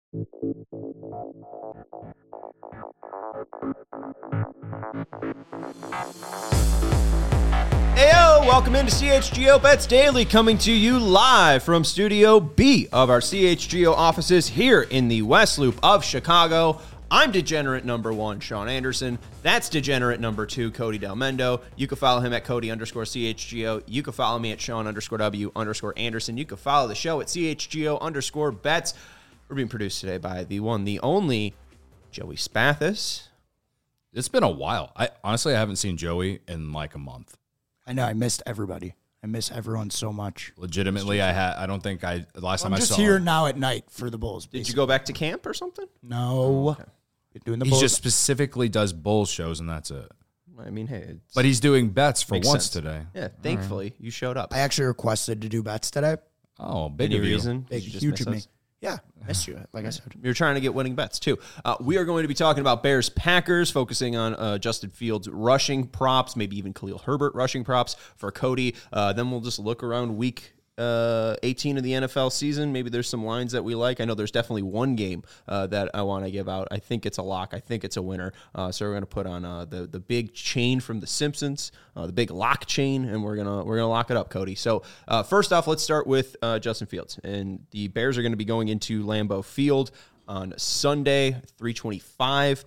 Heyo, welcome into CHGO Bets Daily, coming to you live from Studio B of our CHGO offices here in the West Loop of Chicago. I'm degenerate number 1, Sean Anderson. That's degenerate number 2, Cody Del Mendo. You can follow him at Cody_CHGO. You can follow me at Sean_W_Anderson. You can follow the show at CHGO_Bets. We're being produced today by the one, the only, Joey Spathis. It's been a while. I haven't seen Joey in like a month. I know. I missed everybody. I miss everyone so much. Legitimately, I don't think last time I saw. I'm just here now at night for the Bulls. Did you go back to camp or something? No. Okay. Doing the he Bulls. just specifically does Bulls shows, and that's it. I mean, hey. But he's doing bets for once sense today. Yeah, thankfully, you showed up. I actually requested to do bets today. Oh, big Any of you. reason? Big, Did you just huge miss of me. us? Yeah, missed you, like I said. You're trying to get winning bets, too. We are going to be talking about Bears-Packers, focusing on Justin Fields rushing props, maybe even Khalil Herbert rushing props for Cody. Then we'll just look around week 18 of the NFL season. Maybe there's some lines that we like. I know there's definitely one game that I want to give out. I think it's a lock. I think it's a winner. So we're going to put on the big chain from The Simpsons, the big lock chain, and we're gonna lock it up, Cody. So first off, let's start with Justin Fields. And the Bears are going to be going into Lambeau Field on Sunday, 3:25.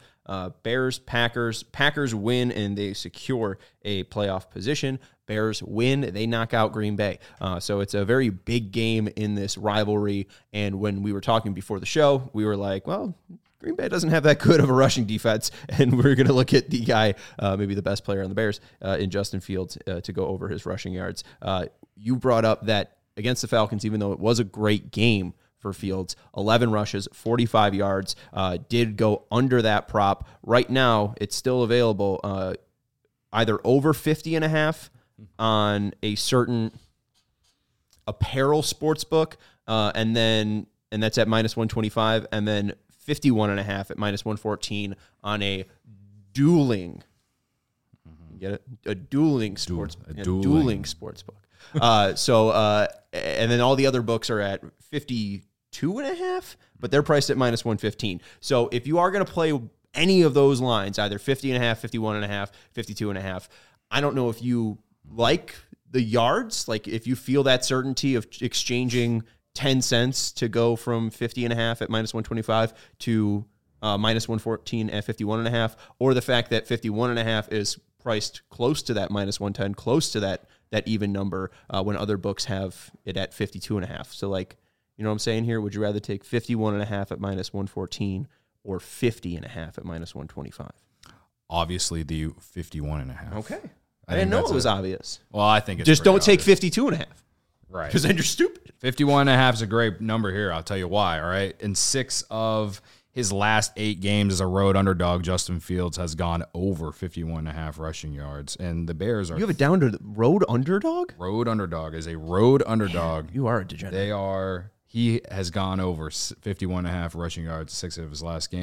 Packers win and they secure a playoff position. Bears win, they knock out Green Bay. So it's a very big game in this rivalry. And when we were talking before the show, we were like, well, Green Bay doesn't have that good of a rushing defense, and we're going to look at the guy, maybe the best player on the Bears, in Justin Fields, to go over his rushing yards. You brought up that against the Falcons, even though it was a great game for Fields, 11 rushes, 45 yards, did go under that prop. Right now, it's still available either over 50.5 on a certain apparel sports book, and that's at minus 125, and then 51.5 at minus 114 on a dueling. You get it? A dueling sports book. And then all the other books are at 52.5, but they're priced at minus 115. So if you are going to play any of those lines, either 50.5, 51.5, 52.5, I don't know if you like the yards, like if you feel that certainty of exchanging 10 cents to go from 50.5 at minus 125 to minus 114 at 51.5, or the fact that 51.5 is priced close to that minus 110, close to that even number, when other books have it at 52.5. So like, you know what I'm saying here? Would you rather take 51.5 at minus 114 or 50.5 at minus 125? Obviously, the 51.5. Okay. I didn't know it was obvious. Well, I think it's just don't take obvious. 52.5. Right. Because then you're stupid. 51.5 is a great number here. I'll tell you why. All right. In 6 of his last 8 games as a road underdog, Justin Fields has gone over 51.5 rushing yards. And the Bears are. You have it down to the road underdog? Road underdog is a road underdog. You are a degenerate. He has gone over 51.5 rushing yards 6 of his last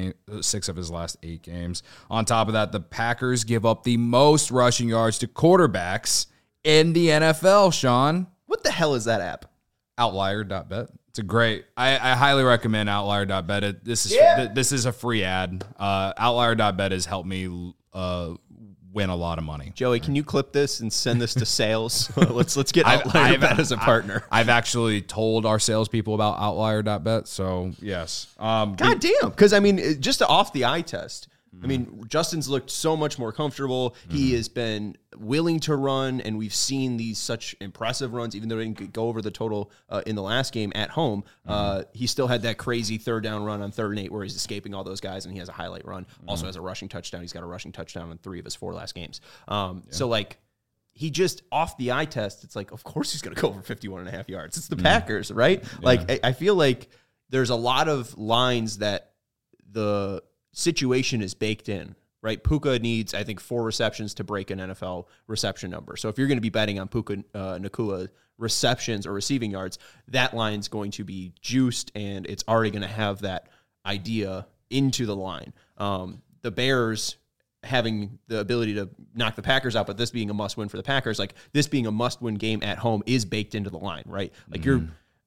8 games. On top of that, the Packers give up the most rushing yards to quarterbacks in the NFL, Sean. What the hell is that app? Outlier.bet. It's a great. I highly recommend Outlier.bet. This is a free ad. Outlier.bet has helped me win a lot of money. Joey, can you clip this and send this to sales? let's get Outlier.bet as a partner. I've actually told our salespeople about Outlier.bet, so yes. God damn. Because, I mean, just off the eye test, I mean, Justin's looked so much more comfortable. He has been willing to run, and we've seen these such impressive runs, even though he didn't go over the total in the last game at home. He still had that crazy third down run on 3rd and 8 where he's escaping all those guys, and he has a highlight run. Also has a rushing touchdown. He's got a rushing touchdown in 3 of his 4 last games. So, like, he just, off the eye test, it's like, of course he's going to go over 51.5 yards. It's the Packers, right? Yeah. Like, I feel like there's a lot of lines that the situation is baked in, right? Puka needs, I think, 4 receptions to break an NFL reception number. So if you're going to be betting on Puka Nacua receptions or receiving yards, that line's going to be juiced, and it's already going to have that idea into the line. The Bears having the ability to knock the Packers out, but this being a must-win for the Packers, like this being a must-win game at home is baked into the line, right? Like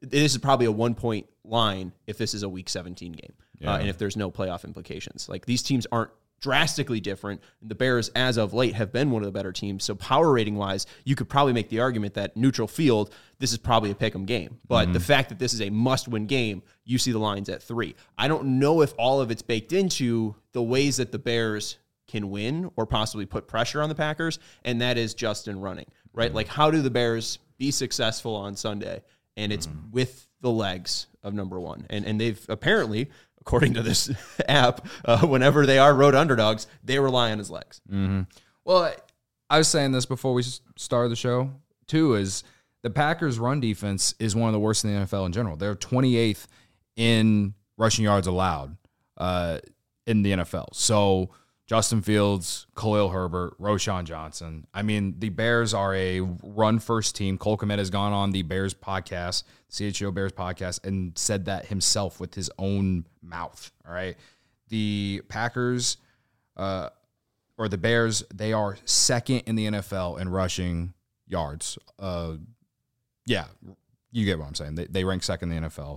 this is probably a 1-point line if this is a Week 17 game, Yeah. and if there's no playoff implications. Like, these teams aren't drastically different. The Bears, as of late, have been one of the better teams. So power rating wise, you could probably make the argument that neutral field, this is probably a pick 'em game. But the fact that this is a must-win game, you see the lines at 3. I don't know if all of it's baked into the ways that the Bears can win or possibly put pressure on the Packers, and that is Justin running, right? Like, how do the Bears be successful on Sunday? And it's with the legs of number one. And they've apparently, according to this app, whenever they are road underdogs, they rely on his legs. Well, I was saying this before we started the show, too, is the Packers' run defense is one of the worst in the NFL in general. They're 28th in rushing yards allowed in the NFL. So Justin Fields, Khalil Herbert, Roschon Johnson. I mean, the Bears are a run-first team. Cole Kmet has gone on the Bears podcast, CHO Bears podcast, and said that himself with his own mouth, all right? The Packers, or the Bears, they are second in the NFL in rushing yards. Yeah, you get what I'm saying. They rank second in the NFL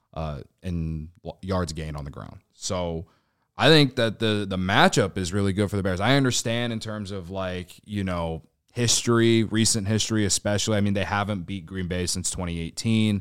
in yards gained on the ground. So I think that the matchup is really good for the Bears. I understand in terms of, like, you know, history, recent history especially. I mean, they haven't beat Green Bay since 2018.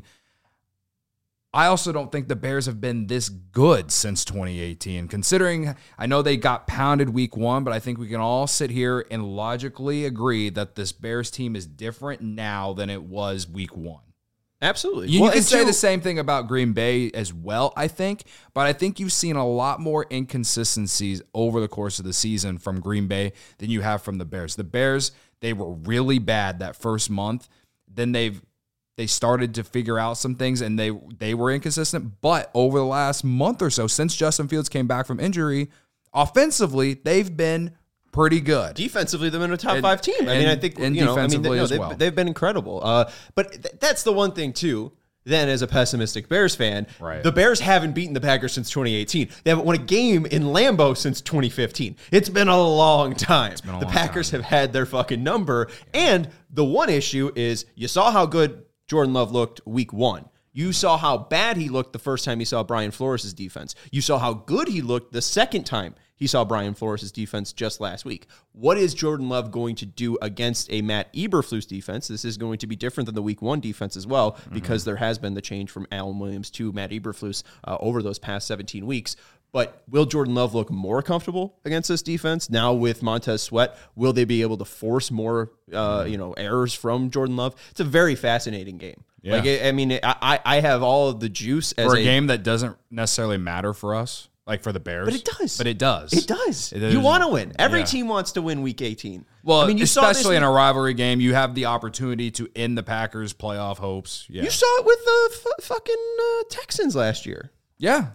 I also don't think the Bears have been this good since 2018, considering I know they got pounded week 1, but I think we can all sit here and logically agree that this Bears team is different now than it was week 1. Absolutely. You can say the same thing about Green Bay as well, I think, but I think you've seen a lot more inconsistencies over the course of the season from Green Bay than you have from the Bears. The Bears, they were really bad that first month. Then they started to figure out some things, and they were inconsistent. But over the last month or so, since Justin Fields came back from injury, offensively, they've been pretty good. Defensively, they've been a top 5 team. I mean, I think, they've been incredible. But that's the one thing, too. Then, as a pessimistic Bears fan, right, the Bears haven't beaten the Packers since 2018. They haven't won a game in Lambeau since 2015. It's been a long time. The Packers have had their fucking number. And the one issue is you saw how good Jordan Love looked week 1. You saw how bad he looked the first time he saw Brian Flores' defense. You saw how good he looked the second time he saw Brian Flores' defense just last week. What is Jordan Love going to do against a Matt Eberflus defense? This is going to be different than the week 1 defense as well, because there has been the change from Alan Williams to Matt Eberflus over those past 17 weeks. But will Jordan Love look more comfortable against this defense now with Montez Sweat? Will they be able to force more, errors from Jordan Love? It's a very fascinating game. Yeah. Like, I mean, I have all of the juice as for a game that doesn't necessarily matter for us, like for the Bears. But it does. But it does. It does. You want to win. Every team wants to win Week 18. Well, I mean, especially in a rivalry game, you have the opportunity to end the Packers' playoff hopes. Yeah. You saw it with the fucking Texans last year. Yeah.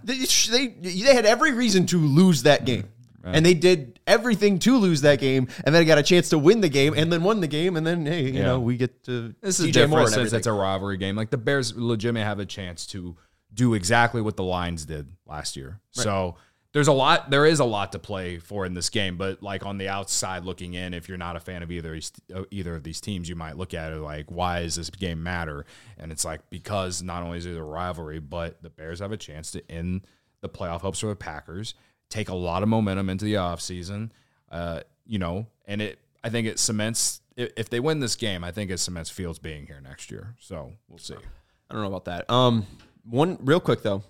They had every reason to lose that game. Right. And they did everything to lose that game, and then got a chance to win the game, and then won the game, and then, hey, you know, we get to this is DJ different Moore since it's a rivalry game. Like, the Bears legitimately have a chance to do exactly what the Lions did last year. Right. So there is a lot to play for in this game, but, like, on the outside looking in, if you're not a fan of either of these teams, you might look at it like, why does this game matter? And it's like, because not only is it a rivalry, but the Bears have a chance to end the playoff hopes for the Packers, take a lot of momentum into the offseason, and I think it cements, if they win this game, I think it cements Fields being here next year. So we'll see. I don't know about that. One real quick though.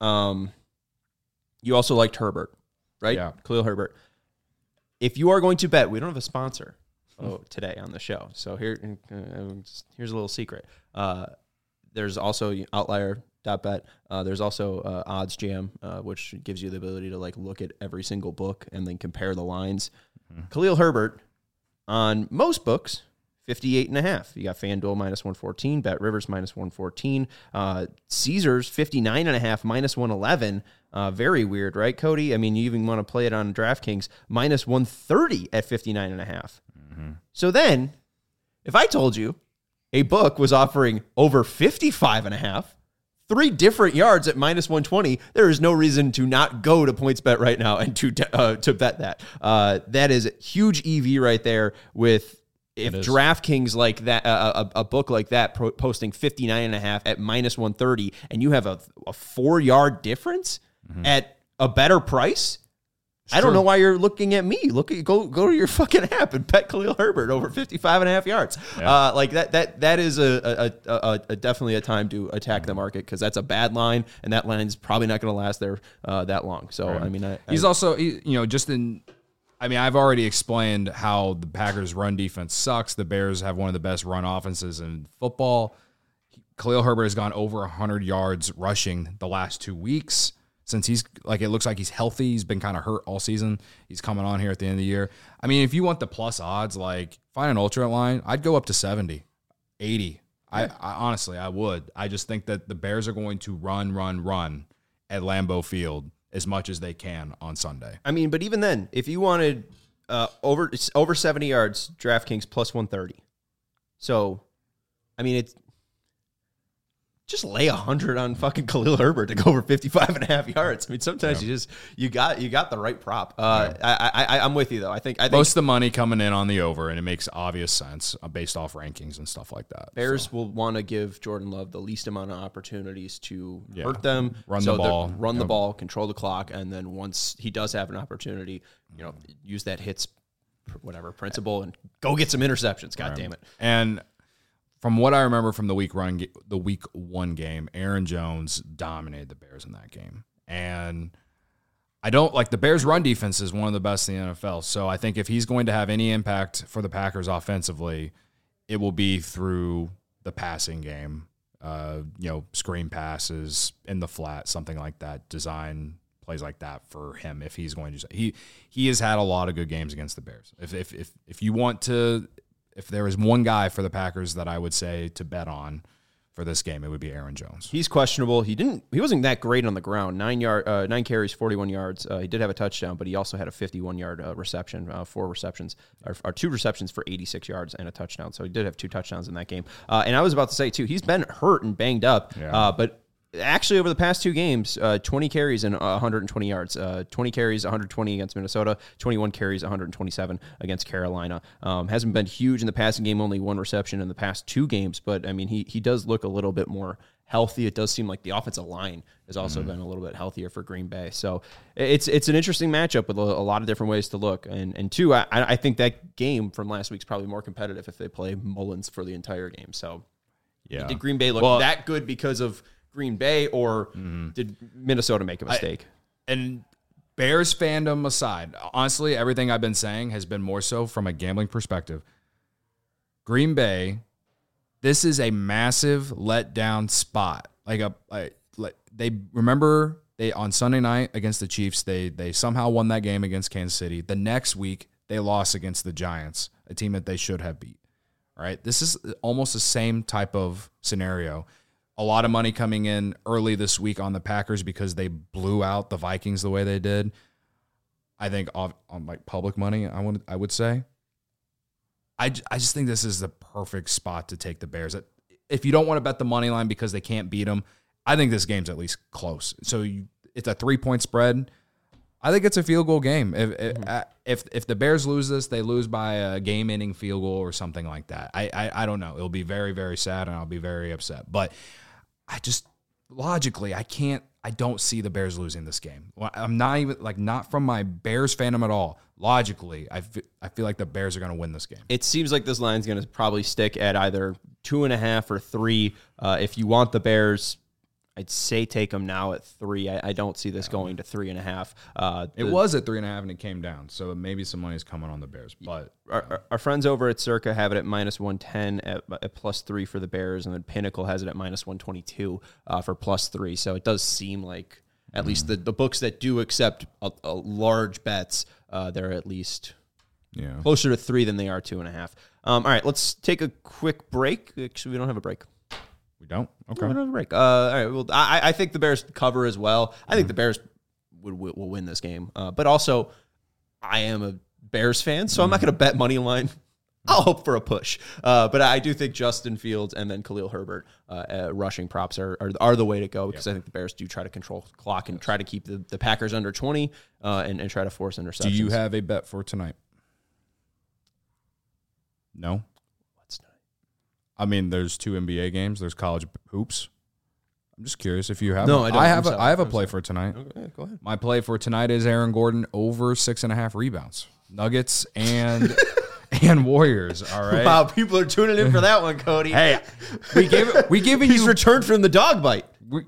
You also liked Herbert, right? Yeah. Khalil Herbert. If you are going to bet, we don't have a sponsor today on the show. So here's a little secret. There's also Outlier.bet. There's also Odds Jam, which gives you the ability to, like, look at every single book and then compare the lines. Khalil Herbert on most books, 58.5. You got FanDuel minus 114, Bet Rivers minus 114, Caesars 59.5 minus 111. Very weird, right, Cody? I mean, you even want to play it on DraftKings minus 130 at 59.5. So then, if I told you a book was offering over 55.5, 3 different yards at minus 120, there is no reason to not go to PointsBet right now and to bet that. That is huge EV right there with if DraftKings like that, a book like that posting 59.5 at minus 130, and you have a 4-yard difference at a better price, I don't know why you're looking at me. Go to your fucking app and bet Khalil Herbert over 55.5 yards. Yeah. Like that is a definitely a time to attack the market, because that's a bad line, and that line's probably not going to last there that long. So I mean, he's also just in. I mean, I've already explained how the Packers' run defense sucks. The Bears have one of the best run offenses in football. Khalil Herbert has gone over 100 yards rushing the last 2 weeks. Since it looks like he's healthy. He's been kind of hurt all season. He's coming on here at the end of the year. I mean, if you want the plus odds, like find an ultra line, I'd go up to 70, 80. I honestly, I would. I just think that the Bears are going to run at Lambeau Field as much as they can on Sunday. I mean, but even then, if you wanted over 70 yards, DraftKings plus 130. So, I mean, it's just lay 100 on fucking Khalil Herbert to go over 55.5 yards. I mean, sometimes you got the right prop. I'm with you though. I think most of the money coming in on the over, and it makes obvious sense based off rankings and stuff like that. Bears will want to give Jordan Love the least amount of opportunities to hurt them, run the ball, control the clock, and then once he does have an opportunity, use that hits principle and go get some interceptions. God damn it. And from what I remember from the week 1 game, Aaron Jones dominated the Bears in that game. And I don't like the Bears' run defense is one of the best in the NFL. So I think if he's going to have any impact for the Packers offensively, it will be through the passing game, screen passes in the flat, something like that, design plays like that for him. If he's going to, he has had a lot of good games against the Bears. If you want to. If there is one guy for the Packers that I would say to bet on for this game, it would be Aaron Jones. He's questionable. He wasn't that great on the ground. 9 carries, 41 yards. He did have a touchdown, but he also had a 51-yard reception, 4 receptions, or 2 receptions for 86 yards and a touchdown. So he did have 2 touchdowns in that game. And I was about to say too, he's been hurt and banged up, but actually over the past 2 games, 20 carries and 120 yards. 20 carries, 120 against Minnesota, 21 carries, 127 against Carolina. Hasn't been huge in the passing game, only 1 reception in the past 2 games, but I mean, he does look a little bit more healthy. It does seem like the offensive line has also been a little bit healthier for Green Bay. So it's an interesting matchup with a lot of different ways to look. And 2, I think that game from last week's probably more competitive if they play Mullins for the entire game. So did Green Bay look that good because of Green Bay, or did Minnesota make a mistake? And Bears fandom aside, honestly, everything I've been saying has been more so from a gambling perspective. Green Bay, this is a massive letdown spot. They on Sunday night against the Chiefs, they somehow won that game against Kansas City. The next week, they lost against the Giants, a team that they should have beat. All right, this is almost the same type of scenario. A lot of money coming in early this week on the Packers because they blew out the Vikings the way they did. I think on like public money, I would say. I just think this is the perfect spot to take the Bears. If you don't want to bet the money line because they can't beat them, I think this game's at least close. So it's a 3-point spread. I think it's a field goal game. If the Bears lose this, they lose by a game-ending field goal or something like that. I don't know. It'll be very, very sad, and I'll be very upset. But I just logically I don't see the Bears losing this game. I'm not even not from my Bears fandom at all. Logically, I feel like the Bears are going to win this game. It seems like this line's going to probably stick at either 2.5 or 3. If you want the Bears, I'd say take them now at 3. I don't see this going to 3.5. It was at 3.5 and it came down, so maybe some money is coming on the Bears. But our friends over at Circa have it at minus 110 at plus 3 for the Bears, and then Pinnacle has it at minus 122 for plus 3. So it does seem like at least the books that do accept a large bets, they're at least closer to 3 than they are 2.5. All right, let's take a quick break. Actually, we don't have a break. We don't? Okay. We don't have a break. All right. Well, I think the Bears cover as well. I think the Bears will win this game. But also, I am a Bears fan, so I'm not going to bet money line. I'll hope for a push. But I do think Justin Fields and then Khalil Herbert rushing props are the way to go, because I think the Bears do try to control the clock and try to keep the Packers under 20 and try to force interceptions. Do you have a bet for tonight? No. What's tonight? I mean, there's 2 NBA games. There's college hoops. I'm just curious if you have. No, I don't. I have a play for tonight. Okay, go ahead. My play for tonight is Aaron Gordon over 6.5 rebounds. Nuggets and Warriors. All right. Wow, people are tuning in for that one, Cody. Hey, we giving He's you returned from the dog bite.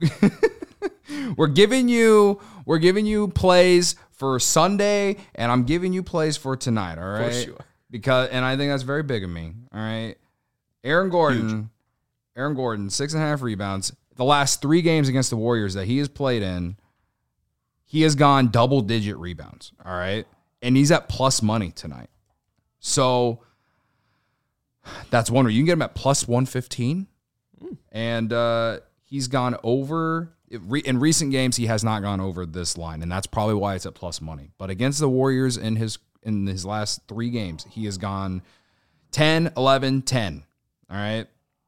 we're giving you plays for Sunday, and I'm giving you plays for tonight. All right. Of course you are. Because I think that's very big of me. All right. Aaron Gordon, 6.5 rebounds. The last 3 games against the Warriors that he has played in, he has gone double-digit rebounds, all right? And he's at plus money tonight. So that's one where you can get him at plus 115. And he's gone over. In recent games, he has not gone over this line, and that's probably why it's at plus money. But against the Warriors in his last 3 games, he has gone 10, 11, 10, all right?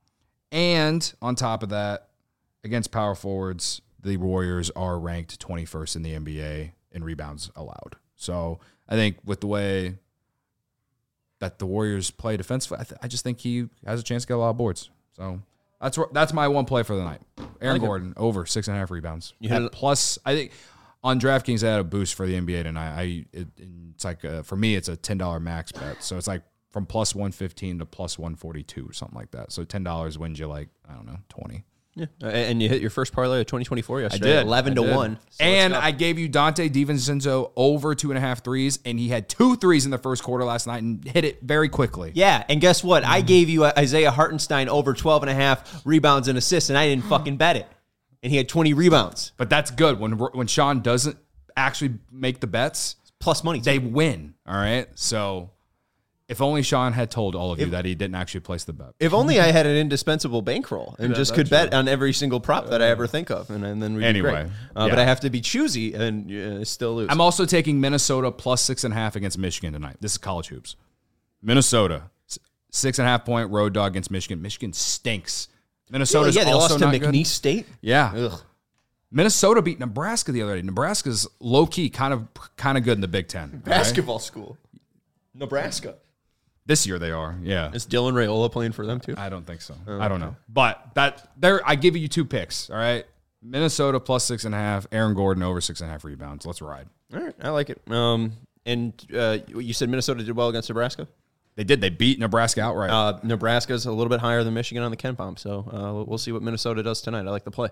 And on top of that, against power forwards, the Warriors are ranked 21st in the NBA in rebounds allowed. So I think with the way that the Warriors play defensively, I just think he has a chance to get a lot of boards. So that's my one play for the night. Aaron Gordon over 6.5 rebounds. Plus, I think on DraftKings they had a boost for the NBA tonight. It's like for me it's a $10 max bet. So it's like from plus 115 to plus 142 or something like that. So $10 wins you like, I don't know, 20. Yeah, and you hit your first parlay of 2024 yesterday. I did. 11 to 1. So and I gave you Dante DiVincenzo over 2.5 threes, and he had 2 threes in the first quarter last night and hit it very quickly. Yeah, and guess what? I gave you Isaiah Hartenstein over 12.5 rebounds and assists, and I didn't fucking bet it. And he had 20 rebounds. But that's good. When Sean doesn't actually make the bets, Plus money, too. they win. All right? So if only Sean had told all of you that he didn't actually place the bet. If only I had an indispensable bankroll and just could bet on every single prop that I ever think of, and then we'd be great. But I have to be choosy and still lose. I'm also taking Minnesota plus 6.5 against Michigan tonight. This is college hoops. Minnesota, 6.5 point road dog against Michigan. Michigan stinks. Minnesota's they also lost to not McNeese good. State. Yeah. Ugh. Minnesota beat Nebraska the other day. Nebraska's low key, kind of good in the Big Ten. Basketball school. Nebraska. This year they are, yeah. Is Dylan Raiola playing for them too? I don't think so. I don't know. But I give you 2 picks, all right? Minnesota plus 6.5, Aaron Gordon over 6.5 rebounds. Let's ride. All right, I like it. And you said Minnesota did well against Nebraska? They did. They beat Nebraska outright. Nebraska's a little bit higher than Michigan on the KenPom, so we'll see what Minnesota does tonight. I like the play.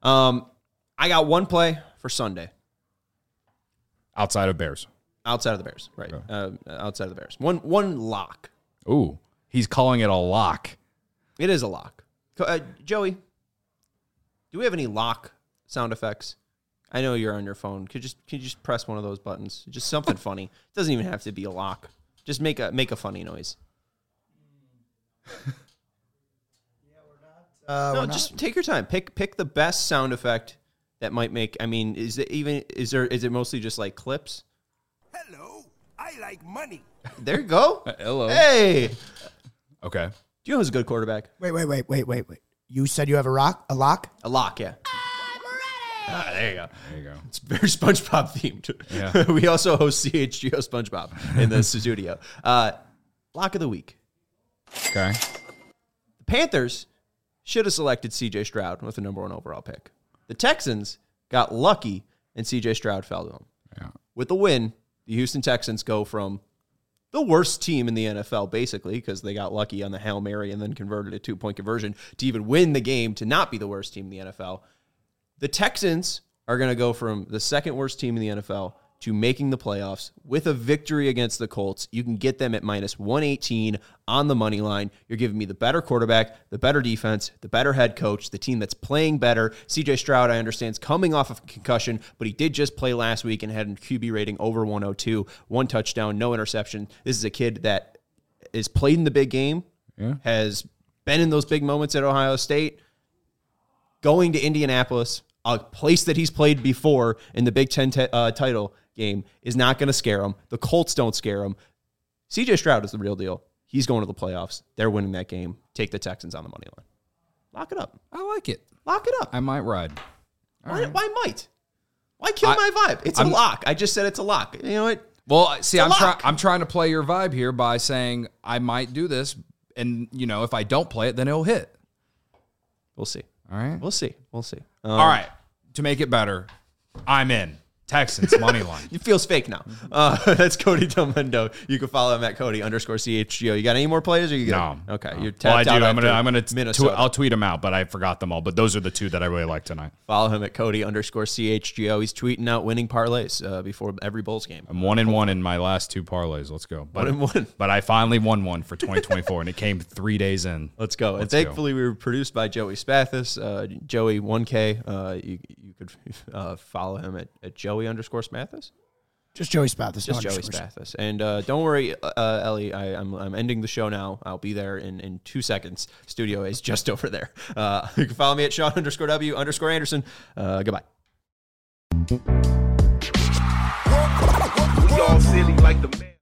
I got one play for Sunday. Outside of Bears. Outside of the Bears, right. Outside of the Bears. One lock. Ooh, he's calling it a lock. It is a lock. Joey, do we have any lock sound effects? I know you're on your phone. Can you just press one of those buttons? Just something funny. It doesn't even have to be a lock. Just make a funny noise. Just take your time. Pick the best sound effect that might make. I mean, is it mostly just like clips? Hello, I like money. There you go. Hello. Hey. Okay. Do you know who's a good quarterback? Wait. You said you have a lock? A lock, yeah. There you go. It's very SpongeBob themed. Yeah. We also host CHGO SpongeBob in the studio. Lock of the week. Okay. The Panthers should have selected C.J. Stroud with the number 1 overall pick. The Texans got lucky, and C.J. Stroud fell to them. Yeah. With the win, the Houston Texans go from the worst team in the NFL, basically, because they got lucky on the Hail Mary and then converted a 2-point conversion to even win the game to not be the worst team in the NFL. The Texans are going to go from the second worst team in the NFL to making the playoffs with a victory against the Colts. You can get them at minus 118 on the money line. You're giving me the better quarterback, the better defense, the better head coach, the team that's playing better. CJ Stroud, I understand, is coming off of a concussion, but he did just play last week and had a QB rating over 102, 1 touchdown, no interception. This is a kid that is played in the big game, has been in those big moments at Ohio State, going to Indianapolis, a place that he's played before in the Big Ten title game, is not going to scare him. The Colts don't scare him. CJ Stroud is the real deal. He's going to the playoffs. They're winning that game. Take the Texans on the money line. Lock it up. I like it. Lock it up. I might ride. Why might? Why kill my vibe? It's a lock. I just said it's a lock. You know what? Well, see, I'm trying to play your vibe here by saying I might do this, and if I don't play it, then it'll hit. We'll see. All right, We'll see. all right. To make it better, I'm in. Texans money line. It feels fake now. That's Cody Delmendo. You can follow him at Cody_CHGO. You got any more players? Or you got No. Okay. You're Well, I tapped do. out I'm gonna. Minnesota. I'll tweet them out, but I forgot them all. But those are the two that I really like tonight. Follow him at Cody_CHGO. He's tweeting out winning parlays before every Bulls game. I'm 1-1 in my last two parlays. Let's go. But, 1-1. But I finally won one for 2024, and it came 3 days in. Let's go. And thankfully, we were produced by Joey Spathis. Joey 1K. You could follow him at Joey_Spathis. Just Joey Spathis. Just Joey Spathis. And don't worry, Ellie, I'm ending the show now. I'll be there in 2 seconds. Studio is just over there. You can follow me at Sean_W_Anderson. Goodbye. We all silly like the man.